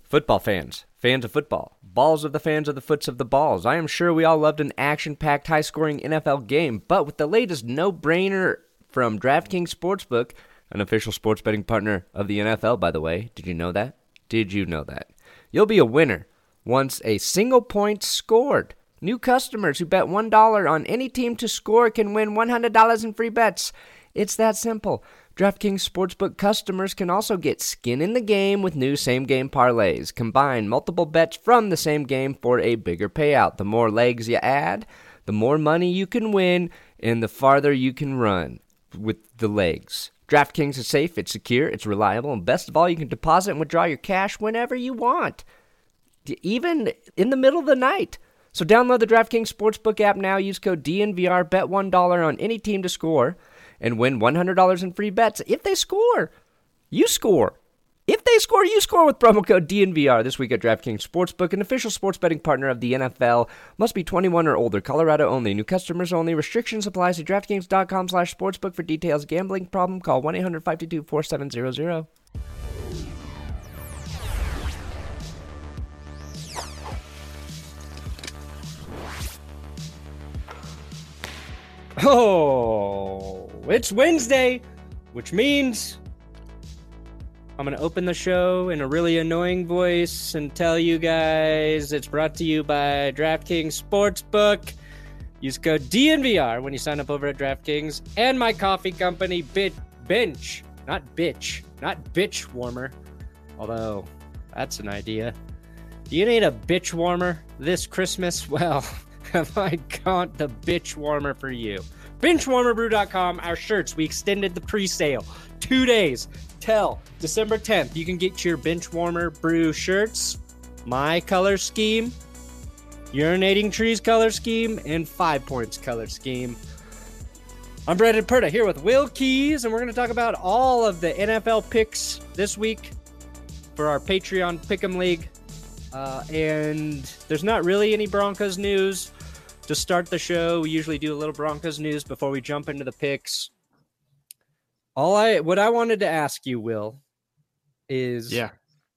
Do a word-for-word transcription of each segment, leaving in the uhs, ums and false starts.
Football fans, fans of football, balls of the fans of the foots of the balls. I am sure we all loved an action-packed, high-scoring N F L game, but with the latest no-brainer from DraftKings Sportsbook, an official sports betting partner of the N F L, by the way. Did you know that? Did you know that? You'll be a winner once a single point scored. New customers who bet one dollar on any team to score can win one hundred dollars in free bets. It's that simple. DraftKings Sportsbook customers can also get skin in the game with new same-game parlays. Combine multiple bets from the same game for a bigger payout. The more legs you add, the more money you can win, and the farther you can run with the legs. DraftKings is safe, it's secure, it's reliable, and best of all, you can deposit and withdraw your cash whenever you want, even in the middle of the night. So download the DraftKings Sportsbook app now. Use code D N V R, bet one dollar on any team to score, and win one hundred dollars in free bets. If they score, you score. If they score, you score with promo code D N V R. This week at DraftKings Sportsbook, an official sports betting partner of the N F L. Must be twenty-one or older. Colorado only. New customers only. Restrictions apply. See DraftKings.com slash sportsbook for details. Gambling problem? Call one eight hundred five two two four seven zero zero. Oh, it's Wednesday, which means I'm going to open the show in a really annoying voice and tell you guys it's brought to you by DraftKings Sportsbook. Use code D N V R when you sign up over at DraftKings, and my coffee company, Bit Bench, not Bitch, not Bitch Warmer, although that's an idea. Do you need a bitch warmer this Christmas? Well, have I got the bitch warmer for you. bench warmer brew dot com, our shirts, we extended the pre-sale two days till December tenth. You can get your Bench Warmer Brew shirts, my color scheme, Urinating Trees color scheme, and Five Points color scheme. I'm Brandon Perta here with Will Keys, and we're going to talk about all of the N F L picks this week for our Patreon Pick'em League. Uh, and there's not really any Broncos news. To start the show, we usually do a little Broncos news before we jump into the picks. All I, what I wanted to ask you, Will, is yeah,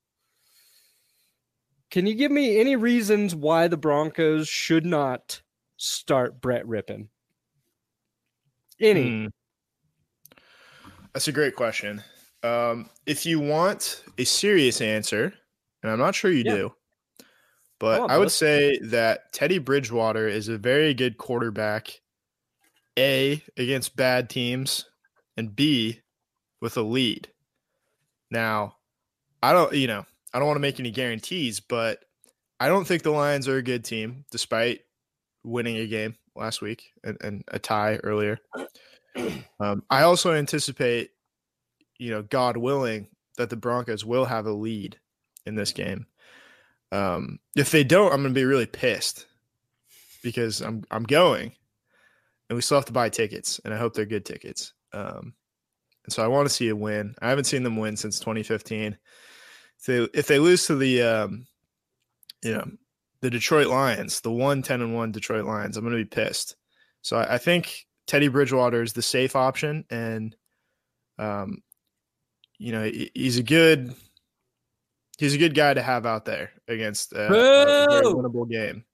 can you give me any reasons why the Broncos should not start Brett Rypien? Any? Hmm. That's a great question. Um, if you want a serious answer, and I'm not sure you yeah. do, but I would say that Teddy Bridgewater is a very good quarterback, A, against bad teams, and B, with a lead. Now, I don't, you know, I don't want to make any guarantees, but I don't think the Lions are a good team, despite winning a game last week and, and a tie earlier. Um, I also anticipate, you know, God willing, that the Broncos will have a lead in this game. Um, if they don't, I'm going to be really pissed because I'm I'm going, and we still have to buy tickets, and I hope they're good tickets. Um, and so I want to see a win. I haven't seen them win since twenty fifteen. If they if they lose to the um, you know, the Detroit Lions, the one ten and one Detroit Lions, I'm going to be pissed. So I, I think Teddy Bridgewater is the safe option, and um, you know, he, he's a good. He's a good guy to have out there against uh, a very winnable game.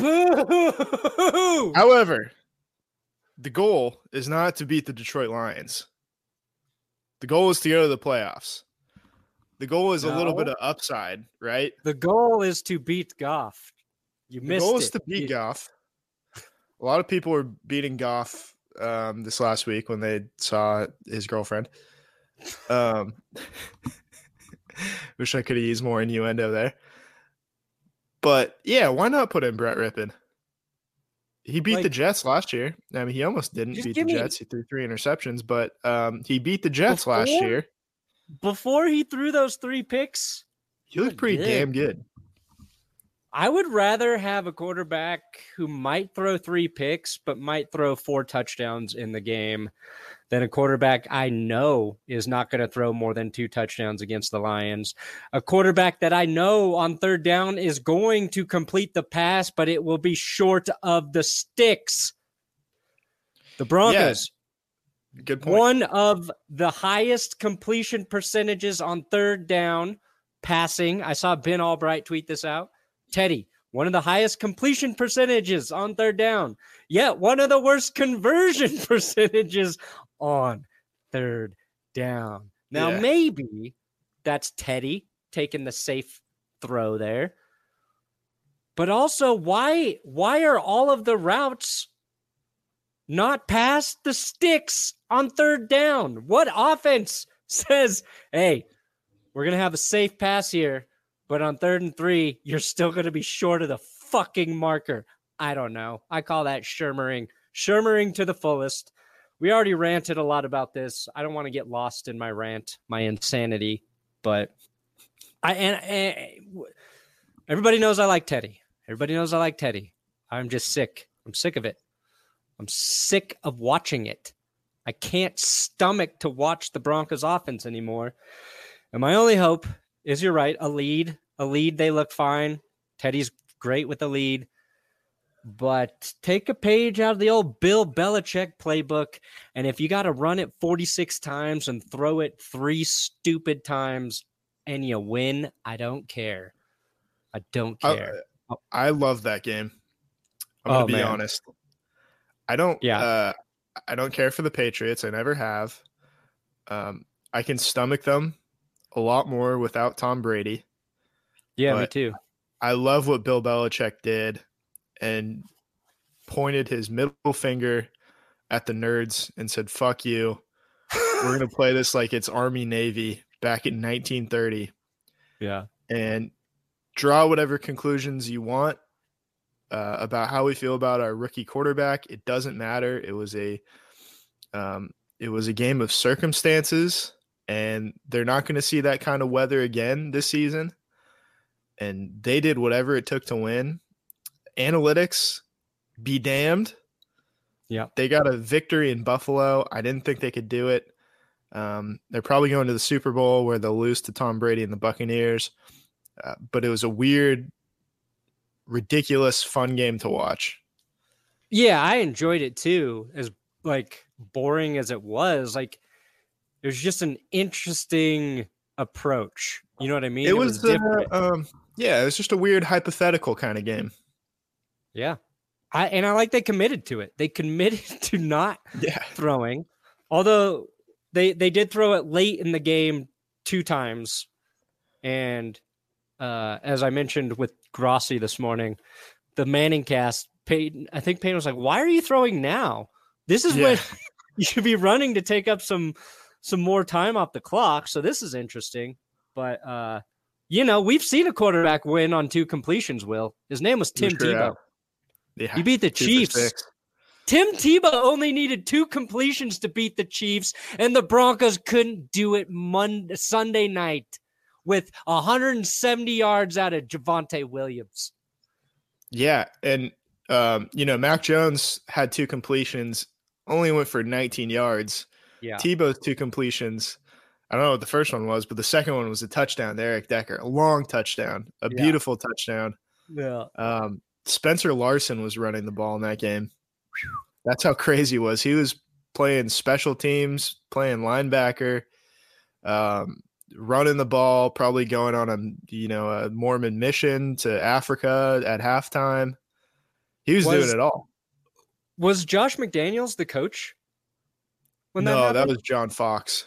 Boo! However, the goal is not to beat the Detroit Lions. The goal is to go to the playoffs. The goal is no. a little bit of upside, right? The goal is to beat Goff. You the missed it. The goal is to beat you... Goff. A lot of people were beating Goff um, this last week when they saw his girlfriend. Um Wish I could have used more innuendo there. But, yeah, why not put in Brett Rypien? He beat like, the Jets last year. I mean, he almost didn't beat the Jets. Me... He threw three interceptions, but um, he beat the Jets before, last year. Before he threw those three picks? He looked pretty good. damn good. I would rather have a quarterback who might throw three picks, but might throw four touchdowns in the game than a quarterback I know is not going to throw more than two touchdowns against the Lions. A quarterback that I know on third down is going to complete the pass, but it will be short of the sticks. The Broncos. Yeah. Good point. One of the highest completion percentages on third down passing. I saw Ben Albright tweet this out. Teddy, one of the highest completion percentages on third down, yet one of the worst conversion percentages on third down. Now, yeah. maybe that's Teddy taking the safe throw there. But also, why, why are all of the routes not past the sticks on third down? What offense says, hey, we're going to have a safe pass here, but on third and three, you're still going to be short of the fucking marker? I don't know. I call that Shermering. Shermering to the fullest. We already ranted a lot about this. I don't want to get lost in my rant, my insanity, but I and, and everybody knows I like Teddy. Everybody knows I like Teddy. I'm just sick. I'm sick of it. I'm sick of watching it. I can't stomach to watch the Broncos offense anymore. And my only hope is, you're right, a lead. A lead, they look fine. Teddy's great with a lead. But take a page out of the old Bill Belichick playbook, and if you got to run it forty-six times and throw it three stupid times and you win, I don't care. I don't care. I, I love that game. I'm going to oh, be man. honest. I don't yeah. uh, I don't care for the Patriots. I never have. Um, I can stomach them a lot more without Tom Brady. Yeah, me too. I love what Bill Belichick did and pointed his middle finger at the nerds and said, fuck you. We're going to play this like it's Army Navy back in nineteen thirty. Yeah. And draw whatever conclusions you want uh, about how we feel about our rookie quarterback. It doesn't matter. It was a, um, it was a game of circumstances, and they're not going to see that kind of weather again this season. And they did whatever it took to win. Analytics, be damned. Yeah. They got a victory in Buffalo. I didn't think they could do it. Um, they're probably going to the Super Bowl where they'll lose to Tom Brady and the Buccaneers. Uh, but it was a weird, ridiculous, fun game to watch. Yeah, I enjoyed it too. As like boring as it was, like it was just an interesting approach. You know what I mean? It, it was, was different. Uh, um, yeah, it was just a weird hypothetical kind of game. Yeah. I and I like they committed to it. They committed to not yeah. throwing. Although they they did throw it late in the game two times. And uh, as I mentioned with Grossi this morning, the Manning cast, Peyton, I think Peyton was like, why are you throwing now? This is yeah. when you should be running to take up some some more time off the clock. So this is interesting. But uh, you know, we've seen a quarterback win on two completions, Will. His name was Tim sure Tebow. Yeah, he beat the Chiefs. Tim Tebow only needed two completions to beat the Chiefs, and the Broncos couldn't do it Monday, Sunday night with one hundred seventy yards out of Javonte Williams. Yeah, and, um, you know, Mac Jones had two completions, only went for nineteen yards. Yeah. Tebow's two completions, I don't know what the first one was, but the second one was a touchdown to Eric Decker, a long touchdown, a yeah. beautiful touchdown. Yeah. Um, Spencer Larson was running the ball in that game. That's how crazy it was. He was playing special teams, playing linebacker, um, running the ball, probably going on a you know a Mormon mission to Africa at halftime. He was, was doing it all. Was Josh McDaniels the coach? When that no, happened? That was John Fox.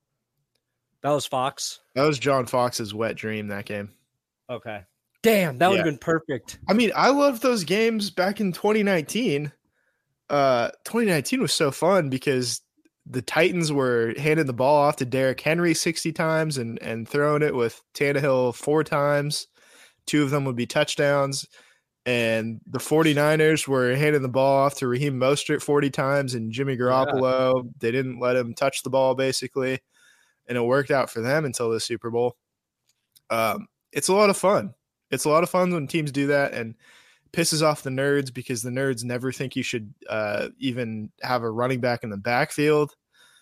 That was Fox? That was John Fox's wet dream, that game. Okay. Damn, that would have yeah. been perfect. I mean, I loved those games back in twenty nineteen. Uh, twenty nineteen was so fun because the Titans were handing the ball off to Derrick Henry sixty times and, and throwing it with Tannehill four times. Two of them would be touchdowns. And the 49ers were handing the ball off to Raheem Mostert forty times and Jimmy Garoppolo. Yeah. They didn't let him touch the ball, basically. And it worked out for them until the Super Bowl. Um, it's a lot of fun. It's a lot of fun when teams do that, and pisses off the nerds because the nerds never think you should uh, even have a running back in the backfield.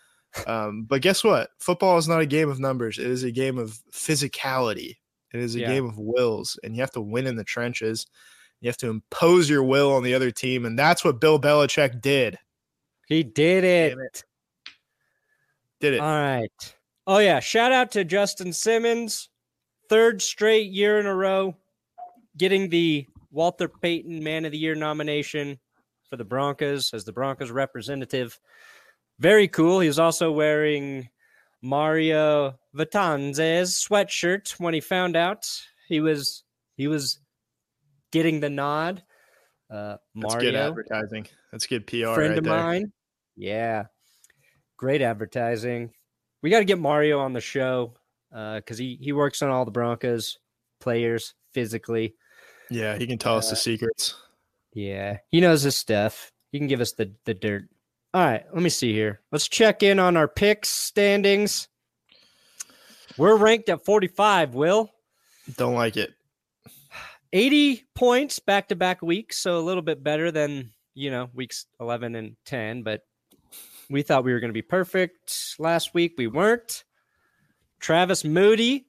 Um, but guess what? Football is not a game of numbers. It is a game of physicality. It is a yeah. game of wills, and you have to win in the trenches. You have to impose your will on the other team, and that's what Bill Belichick did. He did it. it. Did it. All right. Oh, yeah. Shout out to Justin Simmons third straight year in a row getting the Walter Payton Man of the Year nomination for the Broncos as the Broncos representative. Very cool. He was also wearing Mario Vitanze's sweatshirt when he found out he was he was getting the nod. Uh, That's Mario, good advertising. That's good P R. Friend right of there. mine. Yeah, great advertising. We got to get Mario on the show because uh, he he works on all the Broncos players physically. Yeah, he can tell us uh, the secrets. Yeah, he knows his stuff. He can give us the the dirt. All right, let me see here. Let's check in on our picks standings. We're ranked at forty-five, Will. Don't like it. eighty points back-to-back weeks, so a little bit better than, you know, weeks eleven and ten, but we thought we were going to be perfect last week. We weren't. Travis Moody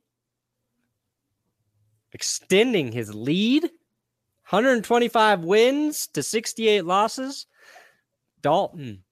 extending his lead. one hundred twenty-five wins to sixty-eight losses. Dalton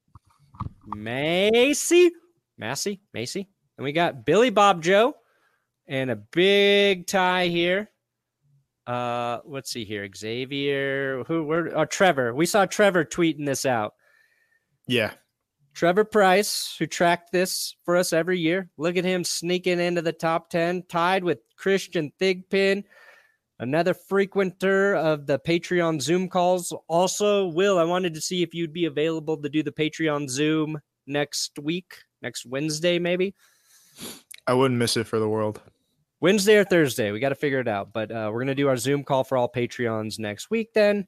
Macy, Massey, Macy. And we got Billy Bob Joe and a big tie here. Uh, let's see here. Xavier, who, where, oh, Trevor. We saw Trevor tweeting this out. Yeah. Trevor Price, who tracked this for us every year. Look at him sneaking into the top ten, tied with Christian Thigpen, another frequenter of the Patreon Zoom calls. Also, Will, I wanted to see if you'd be available to do the Patreon Zoom next week, next Wednesday, maybe. I wouldn't miss it for the world. Wednesday or Thursday. We got to figure it out. But uh, we're going to do our Zoom call for all Patreons next week then.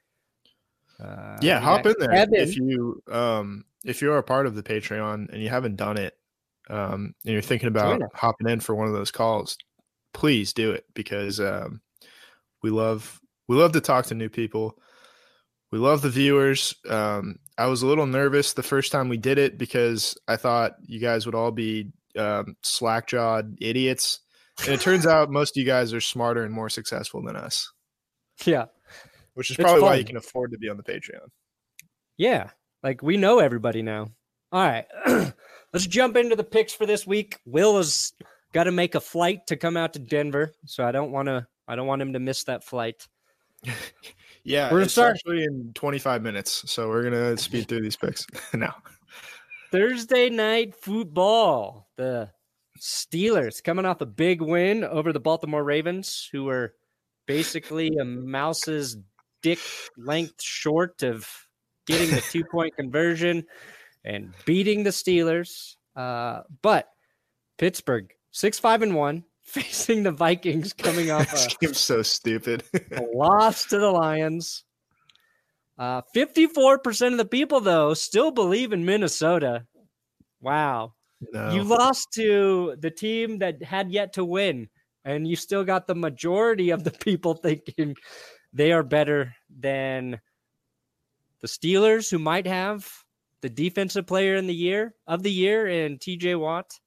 Uh, yeah, hop in there. Kevin. If you um if you're a part of the Patreon and you haven't done it, um, and you're thinking about hopping in for one of those calls, please do it because um, we love we love to talk to new people. We love the viewers. Um, I was a little nervous the first time we did it because I thought you guys would all be um, slack-jawed idiots. And it turns out most of you guys are smarter and more successful than us. Yeah. Which is probably why you can afford to be on the Patreon. Yeah. Like we know everybody now. All right. Let's jump into the picks for this week. Will has got to make a flight to come out to Denver. So I don't want to, I don't want him to miss that flight. Yeah. We're it's start- actually in twenty-five minutes. So we're going to speed through these picks now. Thursday night football. The Steelers coming off a big win over the Baltimore Ravens, who were basically a mouse's dick length short of getting the two-point conversion and beating the Steelers. Uh, but Pittsburgh, six five and one, facing the Vikings coming off this a, game's so stupid. a loss to the Lions. Uh, fifty-four percent of the people, though, still believe in Minnesota. Wow. No. You lost to the team that had yet to win, and you still got the majority of the people thinking they are better than the Steelers, who might have the defensive player in the year of the year in T J Watt.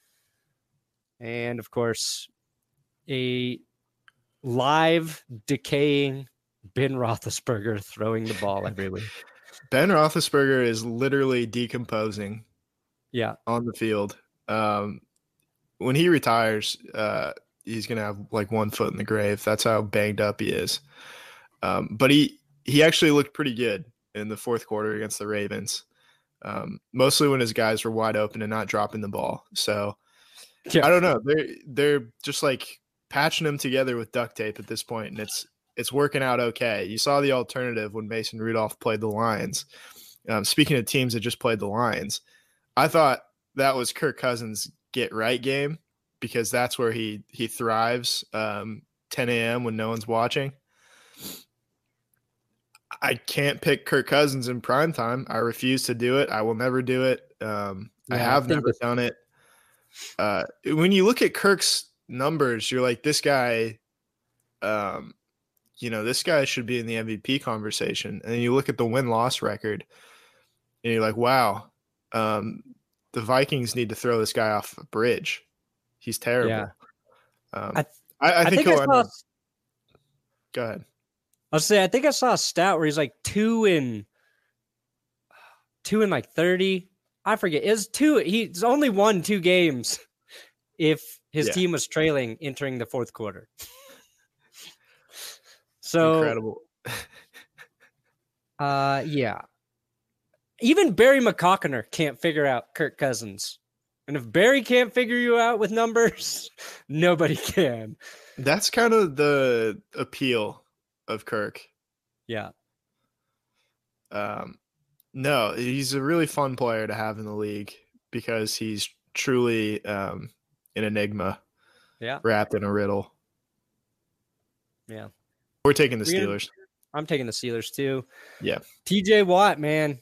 And of course, a live decaying Ben Roethlisberger throwing the ball every week. Ben Roethlisberger is literally decomposing. Yeah, on the field. Um, when he retires, uh, he's gonna have like one foot in the grave. That's how banged up he is. Um, but he he actually looked pretty good in the fourth quarter against the Ravens, um, mostly when his guys were wide open and not dropping the ball. So yeah. I don't know. They're they're just like patching them together with duct tape at this point, and it's it's working out okay. You saw the alternative when Mason Rudolph played the Lions. Um, speaking of teams that just played the Lions. I thought that was Kirk Cousins' get right game because that's where he he thrives. Um, ten a.m. when no one's watching. I can't pick Kirk Cousins in prime time. I refuse to do it. I will never do it. Um, yeah, I have I never done it. Uh, when you look at Kirk's numbers, you're like, this guy, um, you know, this guy should be in the M V P conversation. And then you look at the win-loss record, and you're like, wow. Um, the Vikings need to throw this guy off a bridge. He's terrible. Yeah. Um, I, I, I, think I think he'll I saw, end up... Go ahead. I'll say I think I saw a stat where he's like two in two in like thirty. I forget. It's two. He's only won two games if his Yeah. team was trailing entering the fourth quarter. So incredible. uh, yeah. Even Barry McCockiner can't figure out Kirk Cousins. And if Barry can't figure you out with numbers, nobody can. That's kind of the appeal of Kirk. Yeah. Um, no, he's a really fun player to have in the league because he's truly um, an enigma. Yeah. Wrapped in a riddle. Yeah. We're taking the We're gonna, Steelers. I'm taking the Steelers too. Yeah. T J Watt, man.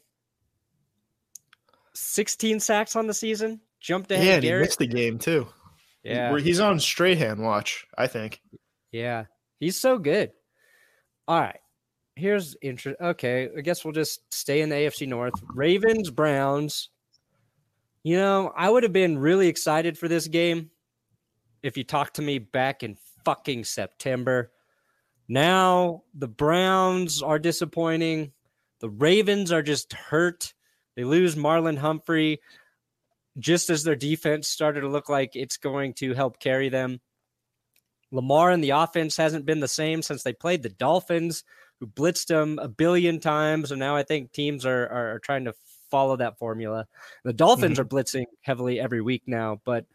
sixteen sacks on the season. Jumped ahead. Yeah, and he Garrett. missed the game too. Yeah. He's on Strahan watch, I think. Yeah. He's so good. All right. Here's interest. Okay. I guess we'll just stay in the A F C North. Ravens, Browns. You know, I would have been really excited for this game if you talked to me back in fucking September. Now the Browns are disappointing. The Ravens are just hurt. They lose Marlon Humphrey just as their defense started to look like it's going to help carry them. Lamar and the offense hasn't been the same since they played the Dolphins, who blitzed them a billion times. And now I think teams are, are, are trying to follow that formula. The Dolphins mm-hmm. are blitzing heavily every week now, but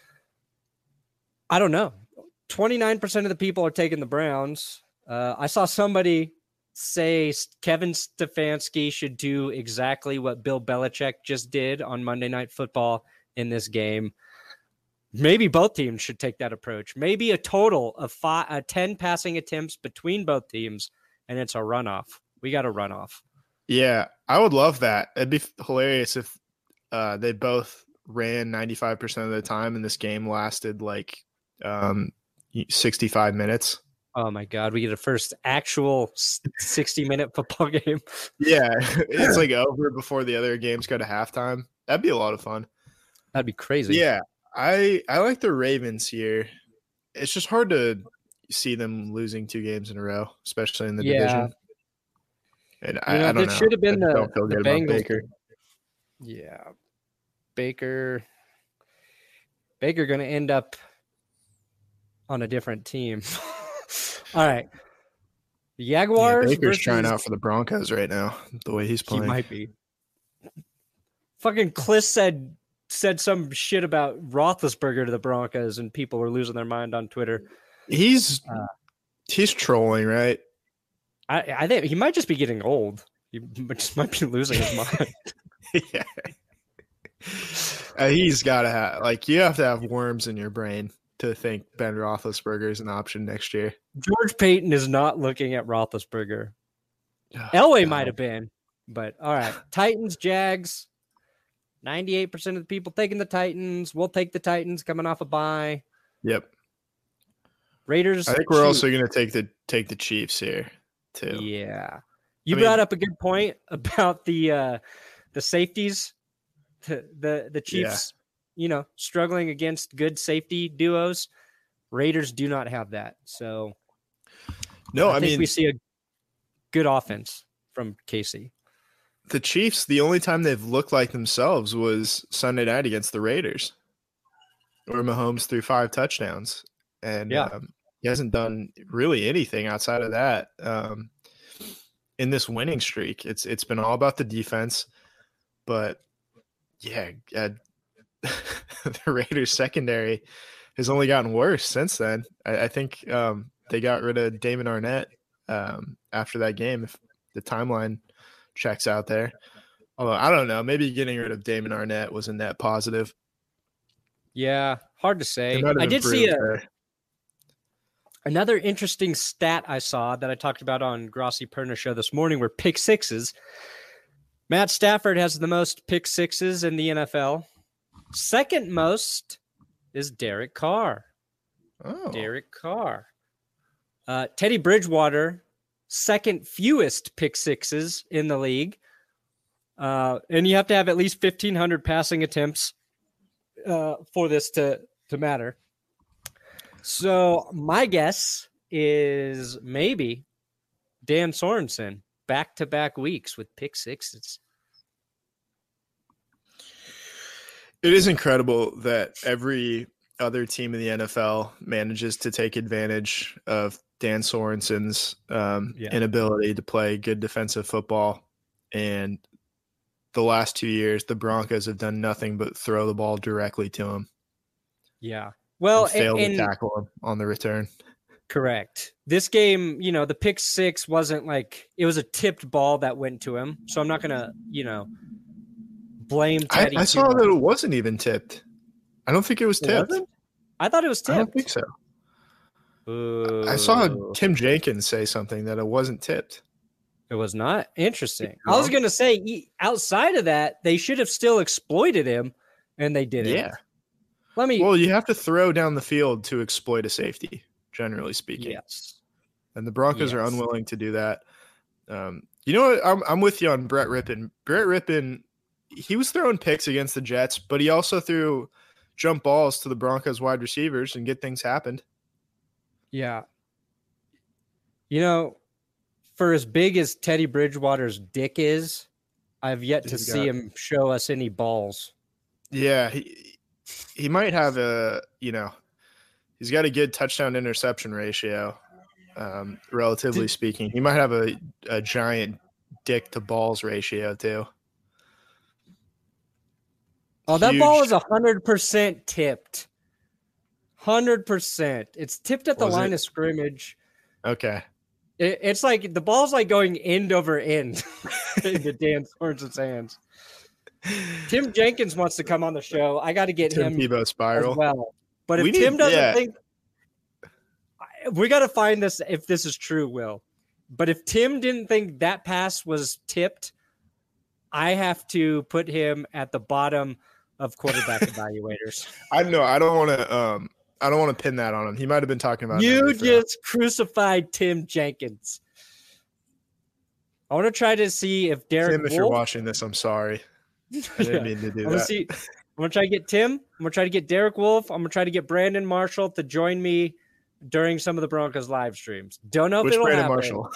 I don't know. twenty-nine percent of the people are taking the Browns. Uh, I saw somebody say Kevin Stefanski should do exactly what Bill Belichick just did on Monday Night Football in this game. Maybe both teams should take that approach. Maybe a total of five, uh, ten passing attempts between both teams, and it's a runoff. We got a runoff. Yeah, I would love that. It'd be hilarious if uh, they both ran ninety-five percent of the time and this game lasted like um, sixty-five minutes. Oh, my God. We get a first actual sixty-minute football game. Yeah, it's like over before the other games go to halftime. That'd be a lot of fun. That'd be crazy. Yeah, I I like the Ravens here. It's just hard to see them losing two games in a row, especially in the yeah. division. And I, you know, I don't it know. should have been I the, don't feel the good Bengals. about Baker. Yeah. Baker. Baker going to end up on a different team. All right. The Jaguars. Yeah, Baker's versus, trying out for the Broncos right now, the way he's playing. He might be. Fucking Kliss said said some shit about Roethlisberger to the Broncos, and people were losing their mind on Twitter. He's uh, he's trolling, right? I, I think he might just be getting old. He just might be losing his mind. Yeah. Uh, he's got to have, like, you have to have worms in your brain to think Ben Roethlisberger is an option next year. George Payton is not looking at Roethlisberger. Oh, Elway God. might have been, but all right. Titans, Jags. ninety-eight percent of the people taking the Titans. We'll take the Titans coming off a bye. Yep. Raiders. I think we're Chiefs. also going to take the take the Chiefs here too. Yeah. You I brought mean, up a good point about the uh, the safeties. The the, the Chiefs, yeah. you know, struggling against good safety duos. Raiders do not have that. So no, I, I think mean we see a good offense from Casey. The Chiefs, the only time they've looked like themselves was Sunday night against the Raiders, where Mahomes threw five touchdowns. And yeah. um, he hasn't done really anything outside of that um, in this winning streak. It's It's been all about the defense. But, yeah, uh, the Raiders secondary has only gotten worse since then. I, I think um, they got rid of Damon Arnett um, after that game, if the timeline – checks out there. Although I don't know, maybe getting rid of Damon Arnett was a net positive. Yeah, hard to say. I did see a, another interesting stat I saw that I talked about on Grossi Perna show this morning were pick sixes. Matt Stafford has the most pick sixes in the N F L. Second most is Derek Carr. Oh, Derek Carr. Uh, Teddy Bridgewater, second fewest pick sixes in the league. Uh, and you have to have at least fifteen hundred passing attempts uh, for this to, to matter. So my guess is maybe Dan Sorensen back-to-back weeks with pick sixes. It is incredible that every other team in the N F L manages to take advantage of Dan Sorensen's um, yeah. inability to play good defensive football. And the last two years, the Broncos have done nothing but throw the ball directly to him. Yeah. Well, and failed and, to tackle him on the return. Correct. This game, you know, the pick six wasn't like it was a tipped ball that went to him. So I'm not going to, you know, blame Teddy. I, I saw much. that it wasn't even tipped. I don't think it was tipped. It I thought it was tipped. I don't think so. Ooh. I saw Tim Jenkins say something that it wasn't tipped. It was not? Interesting. No. I was going to say, outside of that, they should have still exploited him, and they didn't. Yeah. Let me. Well, you have to throw down the field to exploit a safety, generally speaking. Yes. And the Broncos yes. are unwilling to do that. Um, you know what? I'm, I'm with you on Brett Rippon. Brett Rippon, he was throwing picks against the Jets, but he also threw jump balls to the Broncos wide receivers and good things happened. Yeah. You know, for as big as Teddy Bridgewater's dick is, I've yet to see him show us any balls. Yeah, he he might have a, you know, he's got a good touchdown interception ratio, um, relatively Did, speaking. He might have a, a giant dick to balls ratio too. Oh, that Huge. ball is one hundred percent tipped. one hundred percent. It's tipped at the Was line it? of scrimmage. Okay. It, it's like the ball's like going end over end into Dan Sorensen's hands. Tim Jenkins wants to come on the show. I got to get Tim him Tebow spiral. as well. But if we Tim need, doesn't yeah. think – we got to find this if this is true, Will. But if Tim didn't think that pass was tipped, I have to put him at the bottom of quarterback evaluators. I know. I don't want to um, – I don't want to pin that on him. He might have been talking about you just crucified Tim Jenkins. I want to try to see if Derek Tim, if Wolf, you're watching this, I'm sorry. I didn't yeah. mean to do I'm that. Gonna see, I'm going to try to get Tim. I'm going to try to get Derek Wolf. I'm going to try to get Brandon Marshall to join me during some of the Broncos live streams. Don't know if Which it'll Brandon happen. Marshall?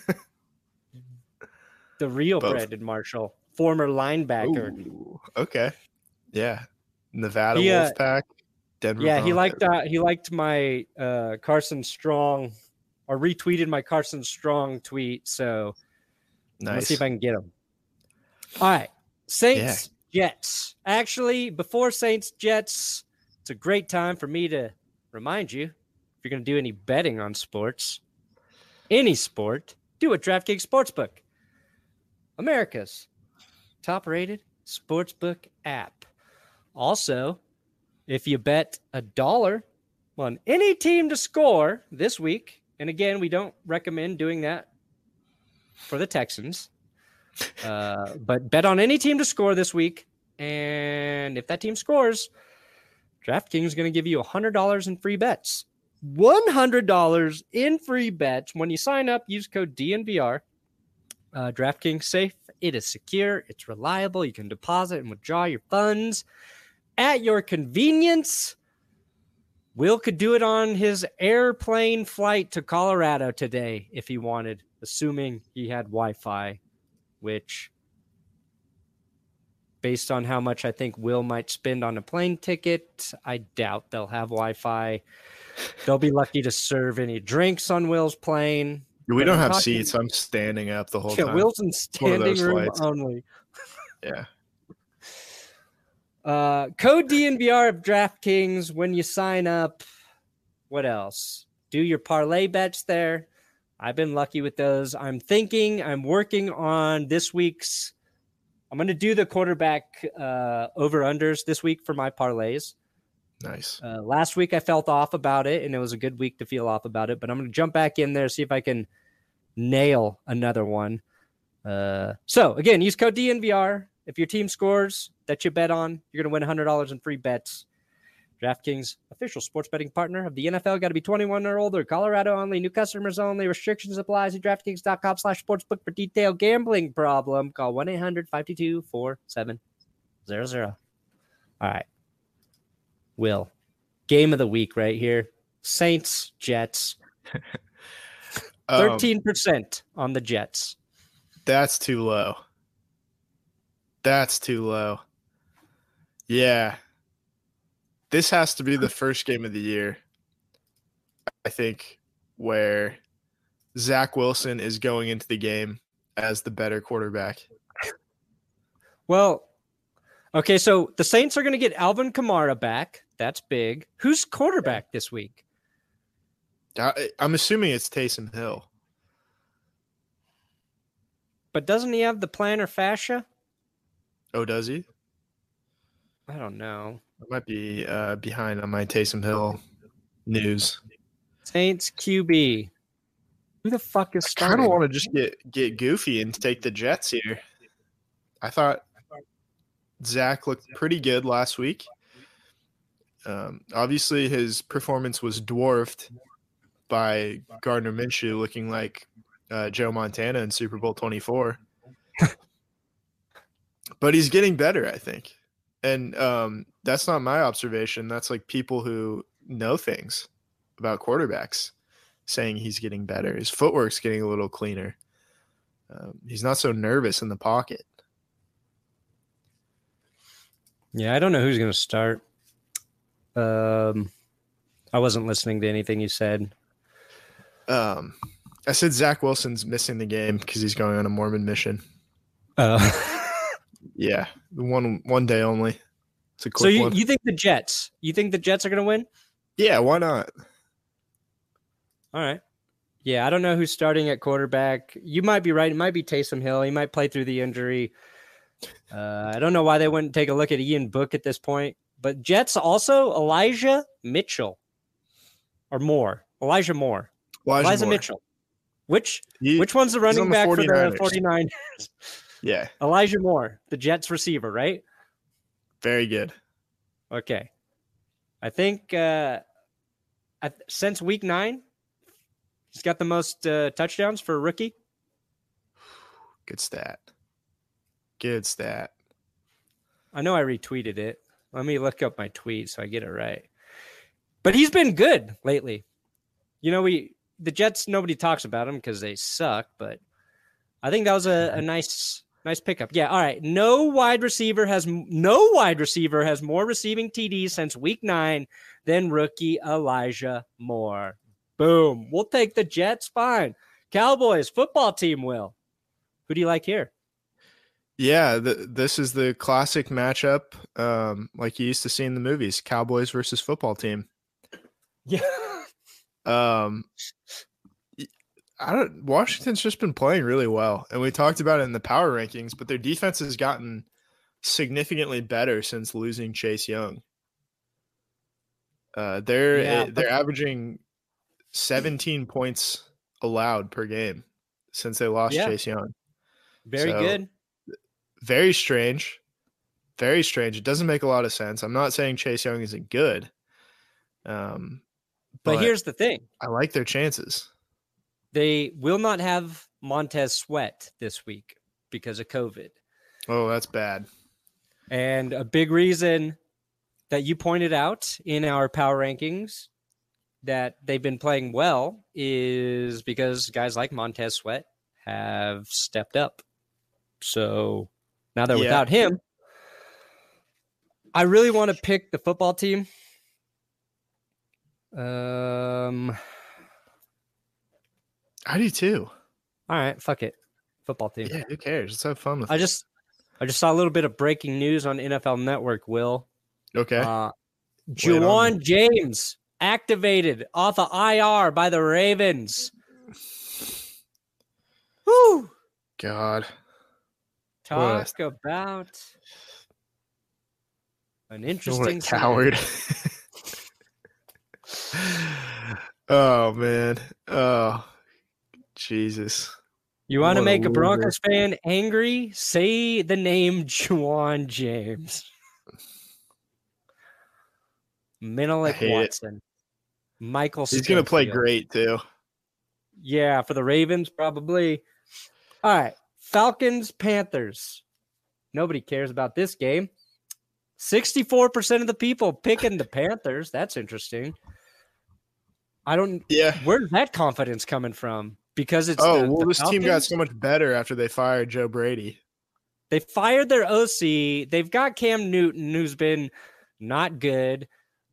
The real Both. Brandon Marshall, former linebacker. Ooh, okay. Yeah. Nevada he, uh, Wolfpack. Denver yeah, Broncos. he liked uh, he liked my uh, Carson Strong, or retweeted my Carson Strong tweet. So nice. Let's see if I can get him. All right, Saints yeah. Jets. Actually, before Saints Jets, it's a great time for me to remind you, if you're going to do any betting on sports, any sport, do it DraftKings Sportsbook, America's top-rated sportsbook app. Also, if you bet a dollar on any team to score this week, and again, we don't recommend doing that for the Texans, uh, but bet on any team to score this week, and if that team scores, DraftKings is going to give you one hundred dollars in free bets. one hundred dollars in free bets when you sign up. Use code D N V R. Uh, DraftKings safe. It is secure. It's reliable. You can deposit and withdraw your funds at your convenience. Will could do it on his airplane flight to Colorado today if he wanted, assuming he had Wi-Fi, which, based on how much I think Will might spend on a plane ticket, I doubt they'll have Wi-Fi. They'll be lucky to serve any drinks on Will's plane. We don't have talking, seats. I'm standing up the whole yeah, time. Will's in standing room flights. only. Yeah. Uh, code D N V R of DraftKings when you sign up. What else? Do your parlay bets there. I've been lucky with those. I'm thinking, I'm working on this week's. I'm going to do the quarterback uh, over-unders this week for my parlays. Nice. Uh, last week I felt off about it, and it was a good week to feel off about it. But I'm going to jump back in there, see if I can nail another one. Uh, so, again, use code D N V R. If your team scores that you bet on, you're going to win one hundred dollars in free bets. DraftKings, official sports betting partner of the N F L. Got to be twenty-one or older. Colorado only. New customers only. Restrictions apply. See DraftKings.com slash sportsbook for detailed gambling problem. Call one eight hundred five two two four seven zero zero. All right. Will, game of the week right here. Saints, Jets. thirteen percent um, on the Jets. That's too low. That's too low. Yeah. this has to be the first game of the year, I think, where Zach Wilson is going into the game as the better quarterback. Well, okay, so the Saints are going to get Alvin Kamara back. That's big. Who's quarterback this week? I, I'm assuming it's Taysom Hill. But doesn't he have the plantar fascia? Oh, does he? I don't know. I might be uh, behind on my Taysom Hill news. Saints Q B. Who the fuck is starting? I kind of want to just get, get goofy and take the Jets here. I thought Zach looked pretty good last week. Um, obviously, his performance was dwarfed by Gardner Minshew looking like uh, Joe Montana in Super Bowl twenty-four. But he's getting better, I think. And um, that's not my observation. That's like people who know things about quarterbacks saying he's getting better. His footwork's getting a little cleaner. Um, he's not so nervous in the pocket. Yeah, I don't know who's going to start. Um, I wasn't listening to anything you said. Um, I said Zach Wilson's missing the game because he's going on a Mormon mission. Uh, yeah, one one day only. It's a quick so you, one. you think the Jets? You think the Jets are going to win? Yeah, why not? All right. Yeah, I don't know who's starting at quarterback. You might be right. It might be Taysom Hill. He might play through the injury. Uh, I don't know why they wouldn't take a look at Ian Book at this point. But Jets also Elijah Mitchell or Moore. Elijah Moore. Elijah, Elijah Moore. Mitchell. Which he, which one's the running the back forty-niners. for the forty-niners? Yeah. Elijah Moore, the Jets receiver, right? Very good. Okay. I think uh, I, since week nine, he's got the most uh, touchdowns for a rookie. Good stat. Good stat. I know I retweeted it. Let me look up my tweet so I get it right. But he's been good lately. You know, we the Jets, nobody talks about them because they suck, but I think that was a, a nice nice pickup. Yeah, all right. No wide receiver has no wide receiver has more receiving T Ds since week nine than rookie Elijah Moore. Boom. We'll take the Jets. Fine. Cowboys football team will. Who do you like here? Yeah, the, this is the classic matchup, um, like you used to see in the movies: Cowboys versus football team. Yeah. Um, I don't. Washington's just been playing really well, and we talked about it in the power rankings. But their defense has gotten significantly better since losing Chase Young. Uh, they're Yeah, but- they're averaging seventeen points allowed per game since they lost Yeah. Chase Young. Very So, good. Very strange. Very strange. It doesn't make a lot of sense. I'm not saying Chase Young isn't good. Um, But, but here's the thing. I like their chances. They will not have Montez Sweat this week because of COVID. Oh, that's bad. And a big reason that you pointed out in our power rankings that they've been playing well is because guys like Montez Sweat have stepped up. So now they're Yeah. without him. I really want to pick the football team. Um, I do too. all right, fuck it. Football team. Yeah, who cares? Let's have fun with I it. just I just saw a little bit of breaking news on N F L Network, Will. Okay. Uh, Lay it on Juwan James activated off of I R by the Ravens. Woo! God. Talk about an What interesting a coward. Oh, man. Oh, Jesus. You want to What a make a loser. Broncos fan angry? Say the name Juwan James. Menelik hate it. Watson. Michael He's going to play Schofield. great, too. Yeah, for the Ravens, probably. All right. Falcons, Panthers. Nobody cares about this game. sixty-four percent of the people picking the Panthers. That's interesting. I don't. Yeah. Where's that confidence coming from? Because it's Oh, the, well, the this team got Falcons? so much better after they fired Joe Brady. They fired their O C. They've got Cam Newton, who's been not good.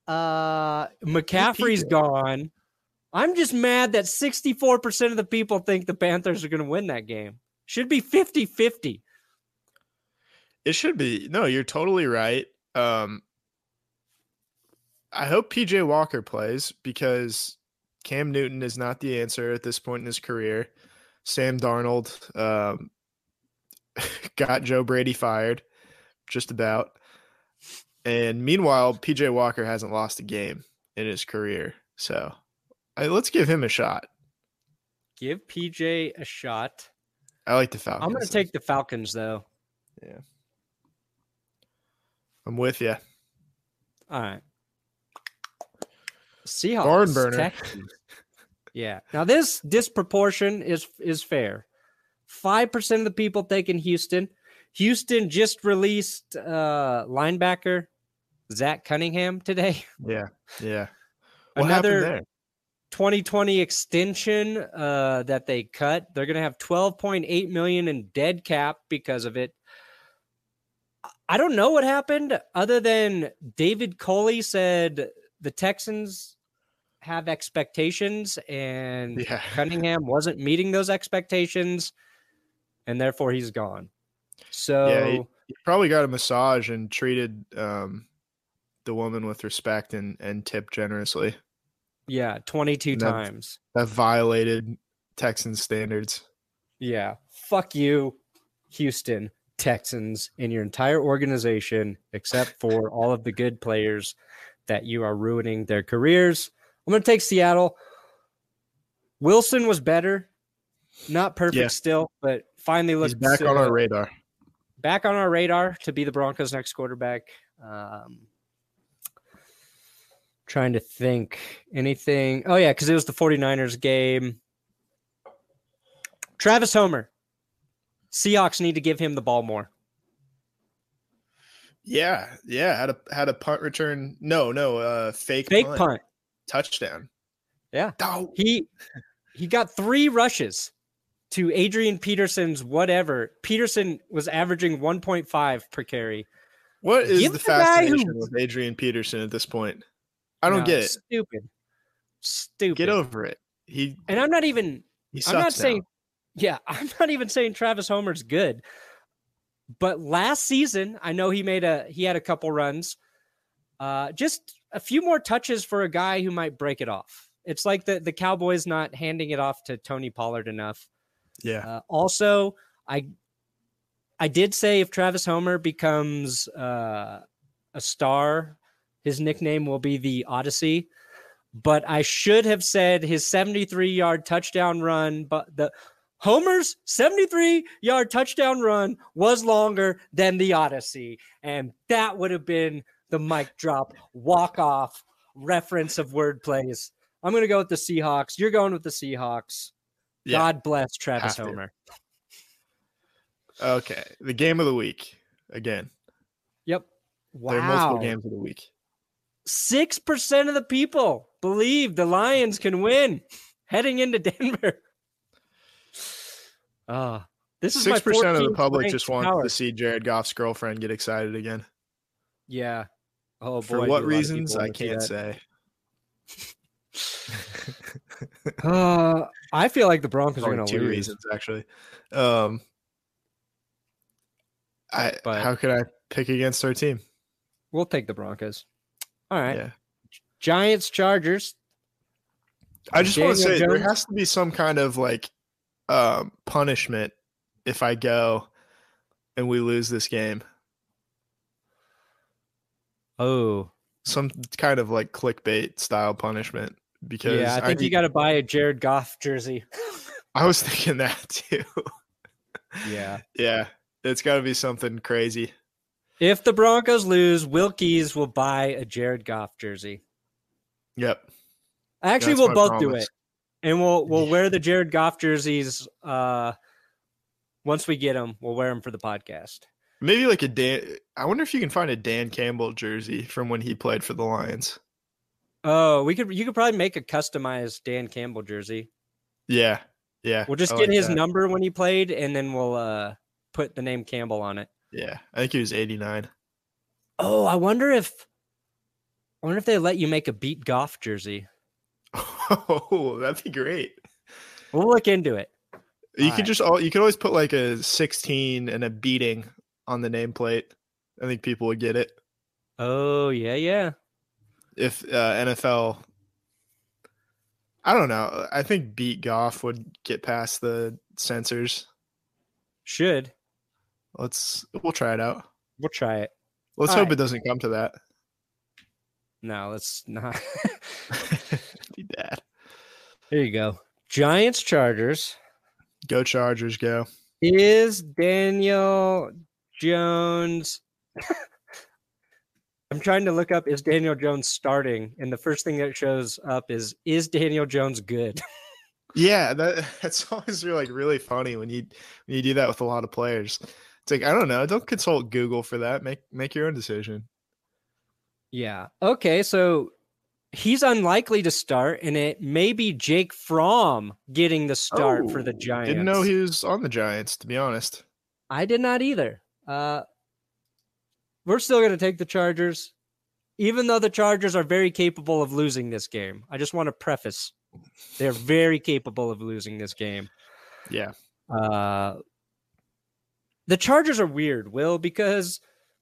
Uh, McCaffrey's gone. I'm just mad that sixty-four percent of the people think the Panthers are going to win that game. Should be fifty-fifty. It should be. No, you're totally right. Um, I hope P J Walker plays because Cam Newton is not the answer at this point in his career. Sam Darnold um, got Joe Brady fired, just about. And meanwhile, P J Walker hasn't lost a game in his career. So I, let's give him a shot. Give P J a shot. I like the Falcons. I'm going to take the Falcons, though. Yeah. I'm with you. All right. Seahawks. Barn burner. Texans. Yeah. Now, this disproportion is is fair. five percent of the people taking Houston. Houston just released uh, linebacker Zach Cunningham today. Yeah, yeah. What Another happened there? twenty twenty extension uh, that they cut. They're going to have twelve point eight million dollars in dead cap because of it. I don't know what happened other than David Coley said the Texans have expectations and Yeah. Cunningham wasn't meeting those expectations, and therefore he's gone. So Yeah, he, he probably got a massage and treated um, the woman with respect and, and tipped generously. yeah, twenty-two that, times. That violated Texans standards. Yeah. Fuck you, Houston Texans, and your entire organization, except for all of the good players that you are ruining their careers. I'm going to take Seattle. Wilson was better. Not perfect Yeah. still, but finally looks He's back on our radar. back on our radar to be the Broncos' next quarterback. Um, trying to think anything. Oh, yeah, because it was the 49ers game. Travis Homer. Seahawks need to give him the ball more. Yeah, yeah. Had a had a punt return. No, no, uh, fake Fake punt. punt. Touchdown. Yeah. Oh, He he got three rushes to Adrian Peterson's whatever. Peterson was averaging one point five per carry. what is Give the the guy who- fascination with Adrian Peterson at this point? I don't No, get it. Stupid. Stupid. Get over it. He And I'm not even he I'm not sucks saying now. yeah, I'm not even saying Travis Homer's good. But last season, I know he made a he had a couple runs. Uh just a few more touches for a guy who might break it off. It's like the the Cowboys not handing it off to Tony Pollard enough. Yeah. Uh, also, I I did say if Travis Homer becomes uh, a star, his nickname will be the Odyssey. But I should have said his seventy-three-yard touchdown run, but the Homer's seventy-three-yard touchdown run was longer than the Odyssey, and that would have been the mic drop walk-off reference of word plays. I'm going to go with the Seahawks. You're going with the Seahawks. Yeah. God bless Travis Have to. Homer. Okay. The game of the week again. Yep. There are multiple Wow. games of the week. Six percent of the people believe the Lions can win heading into Denver. Uh, this is Six my percent of the fourteenth public ranked just wants power. to see Jared Goff's girlfriend get excited again. Yeah. Oh boy. For do a what lot of reasons? people I wanna see can't that. say. Uh, I feel like the Broncos are Only going to two lose. reasons actually. Um, I But- how could I pick against our team? We'll take the Broncos. All right. Yeah. Giants, Chargers. I just want to Daniel say there Jones? has to be some kind of like um, punishment if I go and we lose this game. Oh, Some kind of like clickbait style punishment because yeah. I think you need- got to buy a Jared Goff jersey. I was thinking that too. Yeah. Yeah, it's got to be something crazy. If the Broncos lose, Wilkies will buy a Jared Goff jersey. Yep. Actually, That's we'll my both do promise. it, and we'll we'll wear the Jared Goff jerseys. Uh, once we get them, we'll wear them for the podcast. Maybe like a Dan. I wonder if you can find a Dan Campbell jersey from when he played for the Lions. Oh, we could you could probably make a customized Dan Campbell jersey. Yeah. Yeah. We'll just I get like his that. number when he played, and then we'll uh, put the name Campbell on it. Yeah. I think he was eighty-nine. Oh, I wonder if I wonder if they let you make a beat Goff jersey. Oh, that'd be great. We'll look into it. You All could right. just all you could always put like a sixteen and a beating on the nameplate. I think people would get it. Oh yeah, yeah. If uh, N F L, I don't know. I think beat Goff would get past the censors. Should. Let's we'll try it out. We'll try it. Let's all hope right. it doesn't come to that. No, let's not. Be bad. There you go. Giants Chargers. Go Chargers, go. Is Daniel Jones I'm trying to look up is Daniel Jones starting, and the first thing that shows up is is Daniel Jones good? Yeah, that that's always really, like really funny when you when you do that with a lot of players. It's like, I don't know, don't consult Google for that. Make make your own decision. Yeah. Okay, so he's unlikely to start, and it may be Jake Fromm getting the start oh, for the Giants. Didn't know he was on the Giants, to be honest. I did not either. Uh, we're still going to take the Chargers, even though the Chargers are very capable of losing this game. I just want to preface, they're very capable of losing this game. Yeah. Uh, the Chargers are weird, Will, because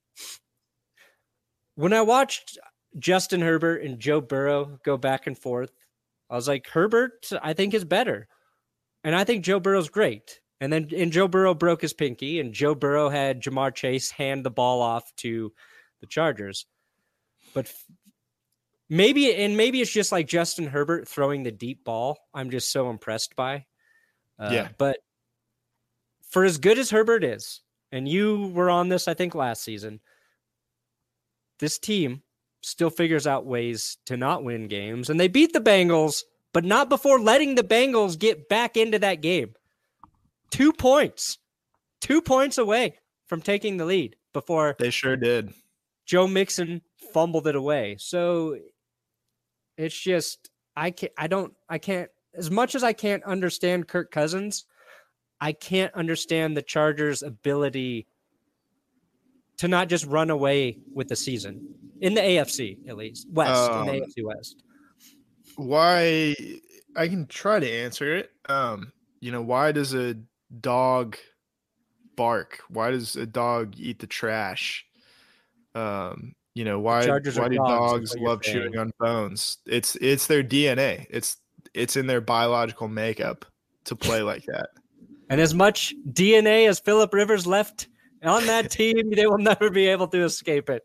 when I watched Justin Herbert and Joe Burrow go back and forth, I was like, Herbert, I think, is better. And I think Joe Burrow's great. And then and Joe Burrow broke his pinky, and Joe Burrow had Jamar Chase hand the ball off to the Chargers. But f- maybe, and maybe it's just like Justin Herbert throwing the deep ball. I'm just so impressed by. Uh, yeah. But for as good as Herbert is, and you were on this, I think, last season, this team still figures out ways to not win games. And they beat the Bengals, but not before letting the Bengals get back into that game. Two points. Two points away from taking the lead before they sure did. Joe Mixon fumbled it away. So it's just I can't I don't I can't as much as I can't understand Kirk Cousins, I can't understand the Chargers' ability to not just run away with the season in the A F C, at least West, um, in the A F C West. Why? I can try to answer it. Um, you know, why does a dog bark? Why does a dog eat the trash? Um, you know, why? Why do dogs, dogs love chewing on bones? It's it's their D N A. It's it's in their biological makeup to play like that. And as much D N A as Phillip Rivers left on that team, they will never be able to escape it.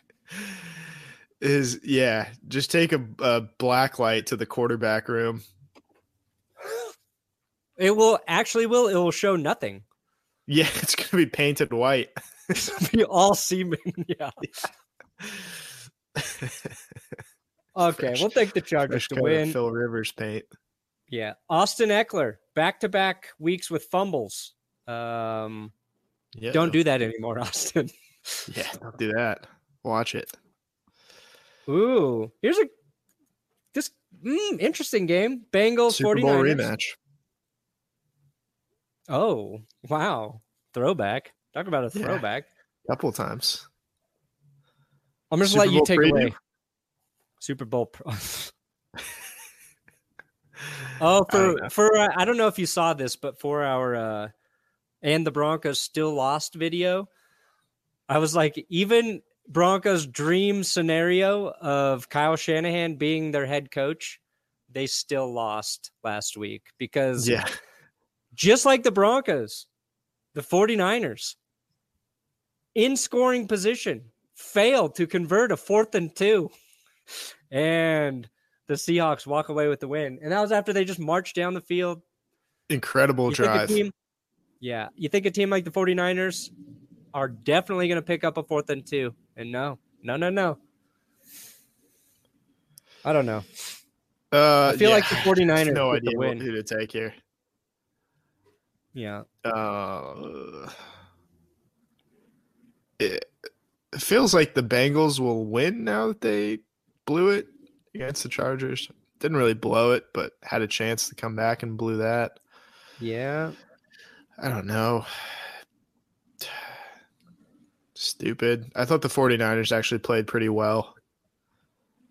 Is yeah, just take a, a black light to the quarterback room. It will actually will it will show nothing. Yeah, it's gonna be painted white. It'll be all semen. Yeah. Okay, fresh, we'll take the Chargers to win. Phil Rivers paint. Yeah, Austin Eckler, back-to-back weeks with fumbles. Um, yeah. Don't do that anymore, Austin. Yeah, don't do that. Watch it. Ooh, here's a this mm, interesting game. Bengals, Super 49ers. Bowl rematch. Oh, wow. Throwback. Talk about a throwback. Yeah, couple of times. I'm just let you take preview. away. Super Bowl. Pro- oh, for I for uh, I don't know if you saw this, but for our uh, and the Broncos still lost video, I was like, even Broncos' dream scenario of Kyle Shanahan being their head coach, they still lost last week because yeah. Just like the Broncos, the 49ers in scoring position failed to convert a fourth and two, and the Seahawks walk away with the win. And that was after they just marched down the field. Incredible you drive. Team, yeah. You think a team like the 49ers are definitely going to pick up a fourth and two. And no, no, no, no. I don't know. Uh, I feel yeah. like the 49ers no get idea the win. who to take here. Yeah. Uh, it feels like the Bengals will win now that they blew it against the Chargers. Didn't really blow it, but had a chance to come back and blew that. Yeah. I don't know. Stupid. I thought the 49ers actually played pretty well.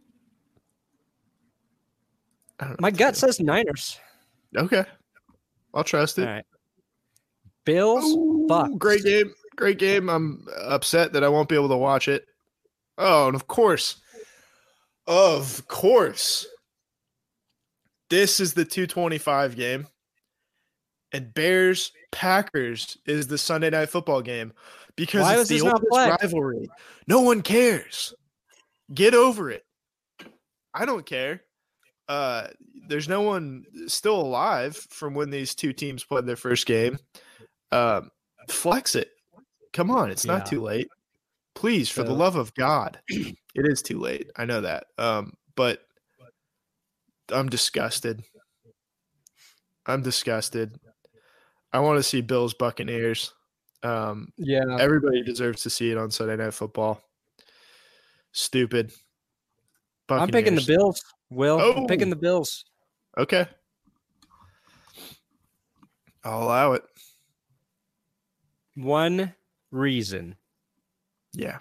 My gut says Niners. Okay. I'll trust it. All right. Bills, Ooh, Bucks. Great game. Great game. I'm upset that I won't be able to watch it. Oh, and of course. Of course. This is the two twenty-five game. And Bears Packers is the Sunday night football game because Why it's the oldest rivalry. No one cares. Get over it. I don't care. Uh, there's no one still alive from when these two teams played their first game. Um, flex it. Come on, it's not yeah. too late. Please, for so, the love of God. It is too late. I know that. Um, but I'm disgusted. I'm disgusted. I want to see Bills Buccaneers. Um, yeah. Everybody deserves to see it on Sunday Night Football. Stupid. Buccaneers. I'm picking the Bills. Will, oh. I'm picking the Bills. Okay. I'll allow it. One reason. Yeah.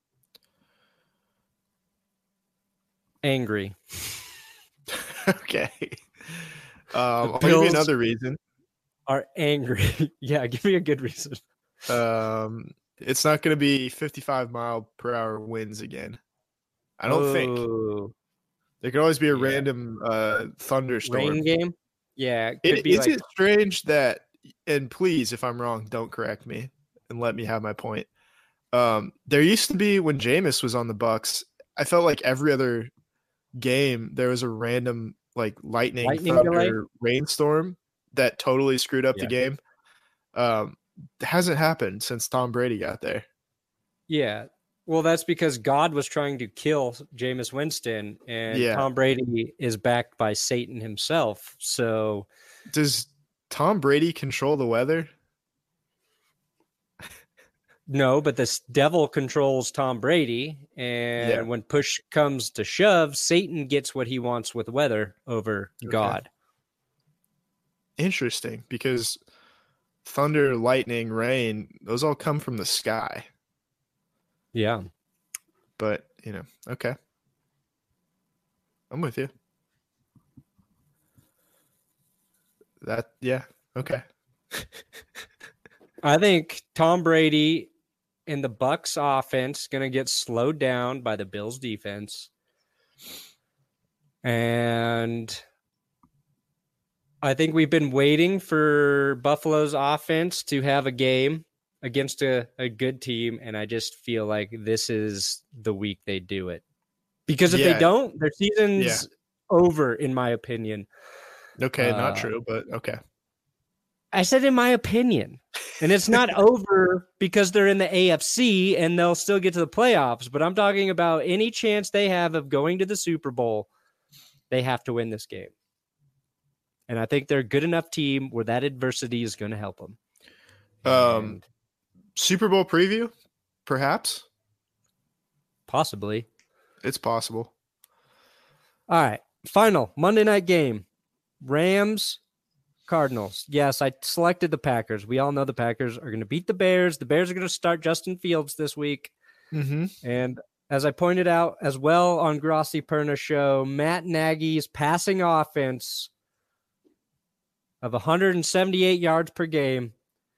Angry. Okay. Um, I'll give you another reason. Are angry. Yeah, give me a good reason. Um, it's not going to be fifty-five mile per hour winds again. I don't oh. think. There could always be a yeah. random uh, thunderstorm. Rain game? Yeah. It it, is like... it strange that, and please, if I'm wrong, don't correct me and let me have my point. Um, there used to be, when Jameis was on the Bucks, I felt like every other game there was a random like lightning, lightning thunder, delay? rainstorm that totally screwed up yeah. the game. Um, it hasn't happened since Tom Brady got there. Yeah. Well, that's because God was trying to kill Jameis Winston, and yeah. Tom Brady is backed by Satan himself. So, does Tom Brady control the weather? No, but this devil controls Tom Brady, and yeah. when push comes to shove, Satan gets what he wants with weather over okay. God. Interesting, because thunder, lightning, rain, those all come from the sky. Yeah. But, you know, okay. I'm with you. That, yeah, okay. I think Tom Brady and the Bucks offense going to get slowed down by the Bills defense. And I think we've been waiting for Buffalo's offense to have a game against a, a good team, and I just feel like this is the week they do it. Because if yeah. they don't, their season's yeah. over, in my opinion. Okay, uh, not true, but okay. I said in my opinion. And it's not over because they're in the A F C and they'll still get to the playoffs, but I'm talking about any chance they have of going to the Super Bowl, they have to win this game. And I think they're a good enough team where that adversity is going to help them. Um. And Super Bowl preview, perhaps? Possibly. It's possible. All right. Final Monday night game. Rams, Cardinals. Yes, I selected the Packers. We all know the Packers are going to beat the Bears. The Bears are going to start Justin Fields this week. Mm-hmm. And as I pointed out as well on Grossi Perna's show, Matt Nagy's passing offense of one hundred seventy-eight yards per game,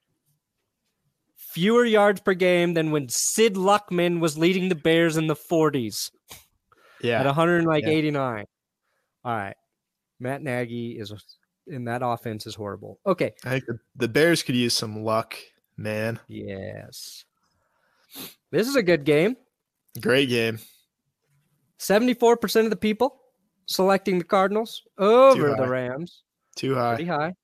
fewer yards per game than when Sid Luckman was leading the Bears in the forties. Yeah. At one hundred eighty-nine. Yeah. All right. Matt Nagy is in that offense is horrible. Okay. I think the, the Bears could use some luck, man. Yes. This is a good game. Great game. seventy-four percent of the people selecting the Cardinals over the Rams. Too high. Pretty high.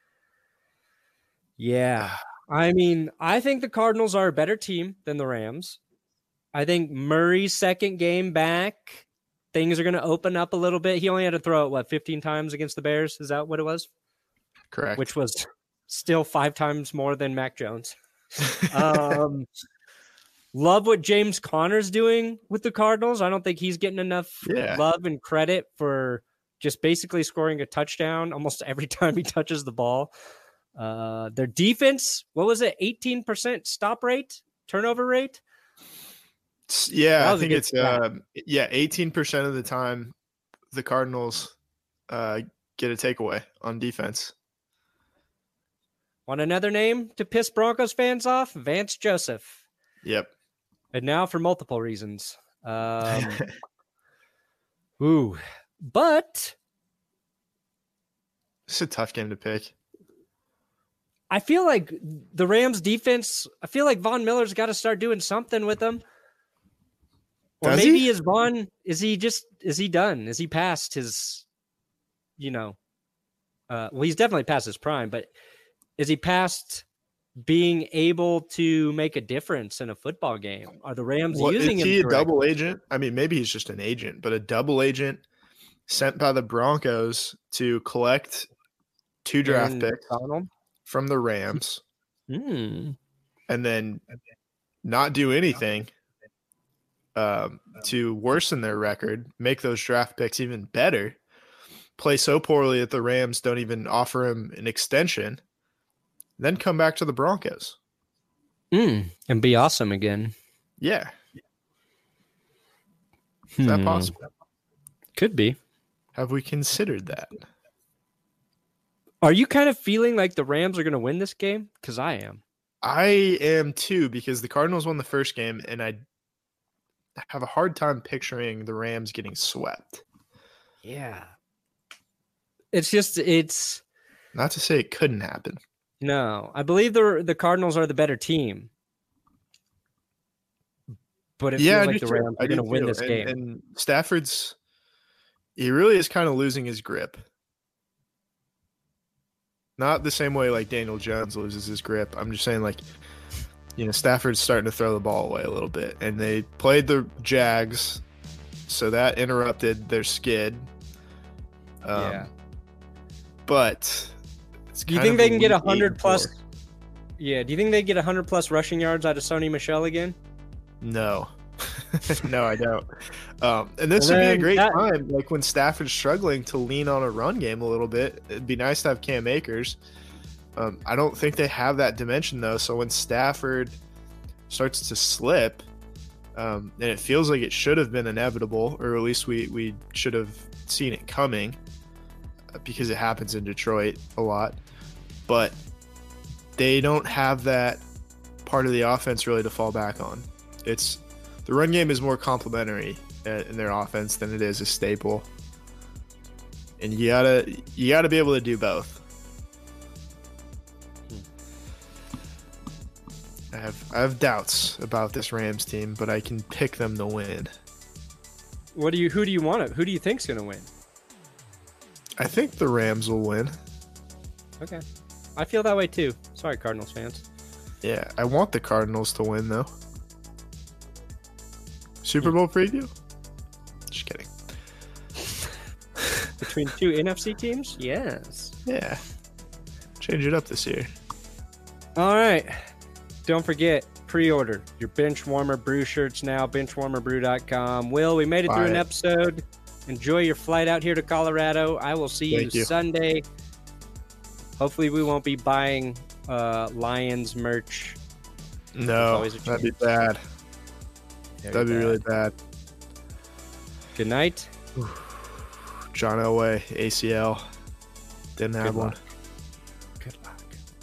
Yeah. I mean, I think the Cardinals are a better team than the Rams. I think Murray's second game back, things are going to open up a little bit. He only had to throw it, what, fifteen times against the Bears? Is that what it was? Correct. Which was still five times more than Mac Jones. um, love what James Conner's doing with the Cardinals. I don't think he's getting enough yeah. love and credit for just basically scoring a touchdown almost every time he touches the ball. Uh, their defense, what was it? eighteen percent stop rate, turnover rate. Yeah, I think it's uh, yeah, eighteen percent of the time the Cardinals uh, get a takeaway on defense. Want another name to piss Broncos fans off? Vance Joseph. Yep. And now for multiple reasons. Um, ooh. But it's a tough game to pick. I feel like the Rams defense, I feel like Von Miller's got to start doing something with them. Or Does maybe he? is Von, is he just, is he done? Is he past his, you know, uh, well, he's definitely past his prime, but is he past being able to make a difference in a football game? Are the Rams well, using is him? Is he a correctly? double agent? I mean, maybe he's just an agent, but a double agent sent by the Broncos to collect two draft Aaron picks Donald? from the Rams Mm. and then not do anything um, to worsen their record, make those draft picks even better, play so poorly that the Rams don't even offer him an extension, then come back to the Broncos. Mm. And be awesome again. Yeah. Is that Hmm. possible? Could be. Have we considered that? Are you kind of feeling like the Rams are going to win this game? Because I am. I am too, because the Cardinals won the first game, and I have a hard time picturing the Rams getting swept. Yeah. It's just, it's... Not to say it couldn't happen. No. I believe the the Cardinals are the better team. But it Yeah, feels I like do the too. Rams I are going do to win too. this and, game. And Stafford's, he really is kind of losing his grip. Not the same way like Daniel Jones loses his grip. I'm just saying, like, you know, Stafford's starting to throw the ball away a little bit. And they played the Jags, so that interrupted their skid. Um, yeah. But it's Do you kind think of they a can get weak one hundred eight plus? and four. Yeah. Do you think they get one hundred plus rushing yards out of Sony Michel again? No. No, I don't. Um, and this Well, would be a then great that- time, like when Stafford's struggling, to lean on a run game a little bit. It'd be nice to have Cam Akers. Um, I don't think they have that dimension, though. So when Stafford starts to slip, um, and it feels like it should have been inevitable, or at least we, we should have seen it coming, uh, because it happens in Detroit a lot. But they don't have that part of the offense really to fall back on. It's the run game is more complementary in their offense than it is a staple, and you gotta you gotta be able to do both. I have I have doubts about this Rams team, but I can pick them to win. What do you? Who do you want? To, who do you think's going to win? I think the Rams will win. Okay, I feel that way too. Sorry, Cardinals fans. Yeah, I want the Cardinals to win though. Super Bowl preview? Just kidding. Between two N F C teams? Yes. Yeah. Change it up this year. All right. Don't forget, pre-order your Bench Warmer Brew shirts now, bench warmer brew dot com. Will, we made it Buy through an it. episode. Enjoy your flight out here to Colorado. I will see you, Thank you. Sunday. Hopefully we won't be buying uh, Lions merch. No, always a that'd be chance. bad. Very That'd be bad. really bad. Good night. John Elway, A C L. Didn't have Good one. luck. Good luck.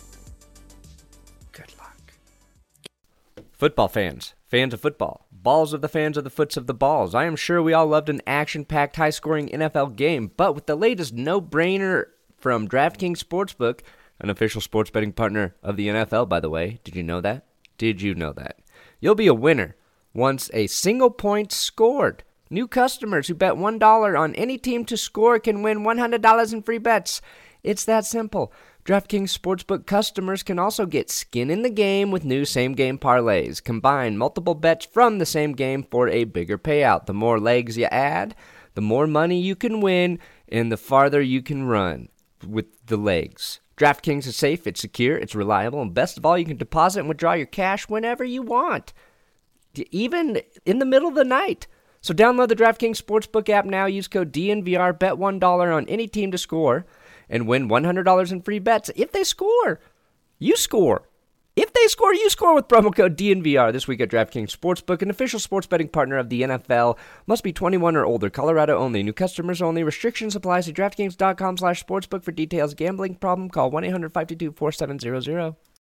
Good luck. Football fans, fans of football, balls of the fans of the foots of the balls. I am sure we all loved an action-packed, high-scoring N F L game, but with the latest no-brainer from DraftKings Sportsbook, an official sports betting partner of the N F L, by the way. Did you know that? Did you know that? You'll be a winner once a single point scored. New customers who bet one dollar on any team to score can win one hundred dollars in free bets. It's that simple. DraftKings Sportsbook customers can also get skin in the game with new same-game parlays. Combine multiple bets from the same game for a bigger payout. The more legs you add, the more money you can win, and the farther you can run with the legs. DraftKings is safe, it's secure, it's reliable, and best of all, you can deposit and withdraw your cash whenever you want, even in the middle of the night. So download the DraftKings Sportsbook app now, use code D N V R, bet one dollar on any team to score, and win one hundred dollars in free bets if they score. You score. If they score, you score with promo code D N V R this week at DraftKings Sportsbook, an official sports betting partner of the N F L. Must be twenty-one or older. Colorado only. New customers only. Restrictions apply. See DraftKings.com slash sportsbook for details. Gambling problem? Call one eight hundred five two two four seven zero zero.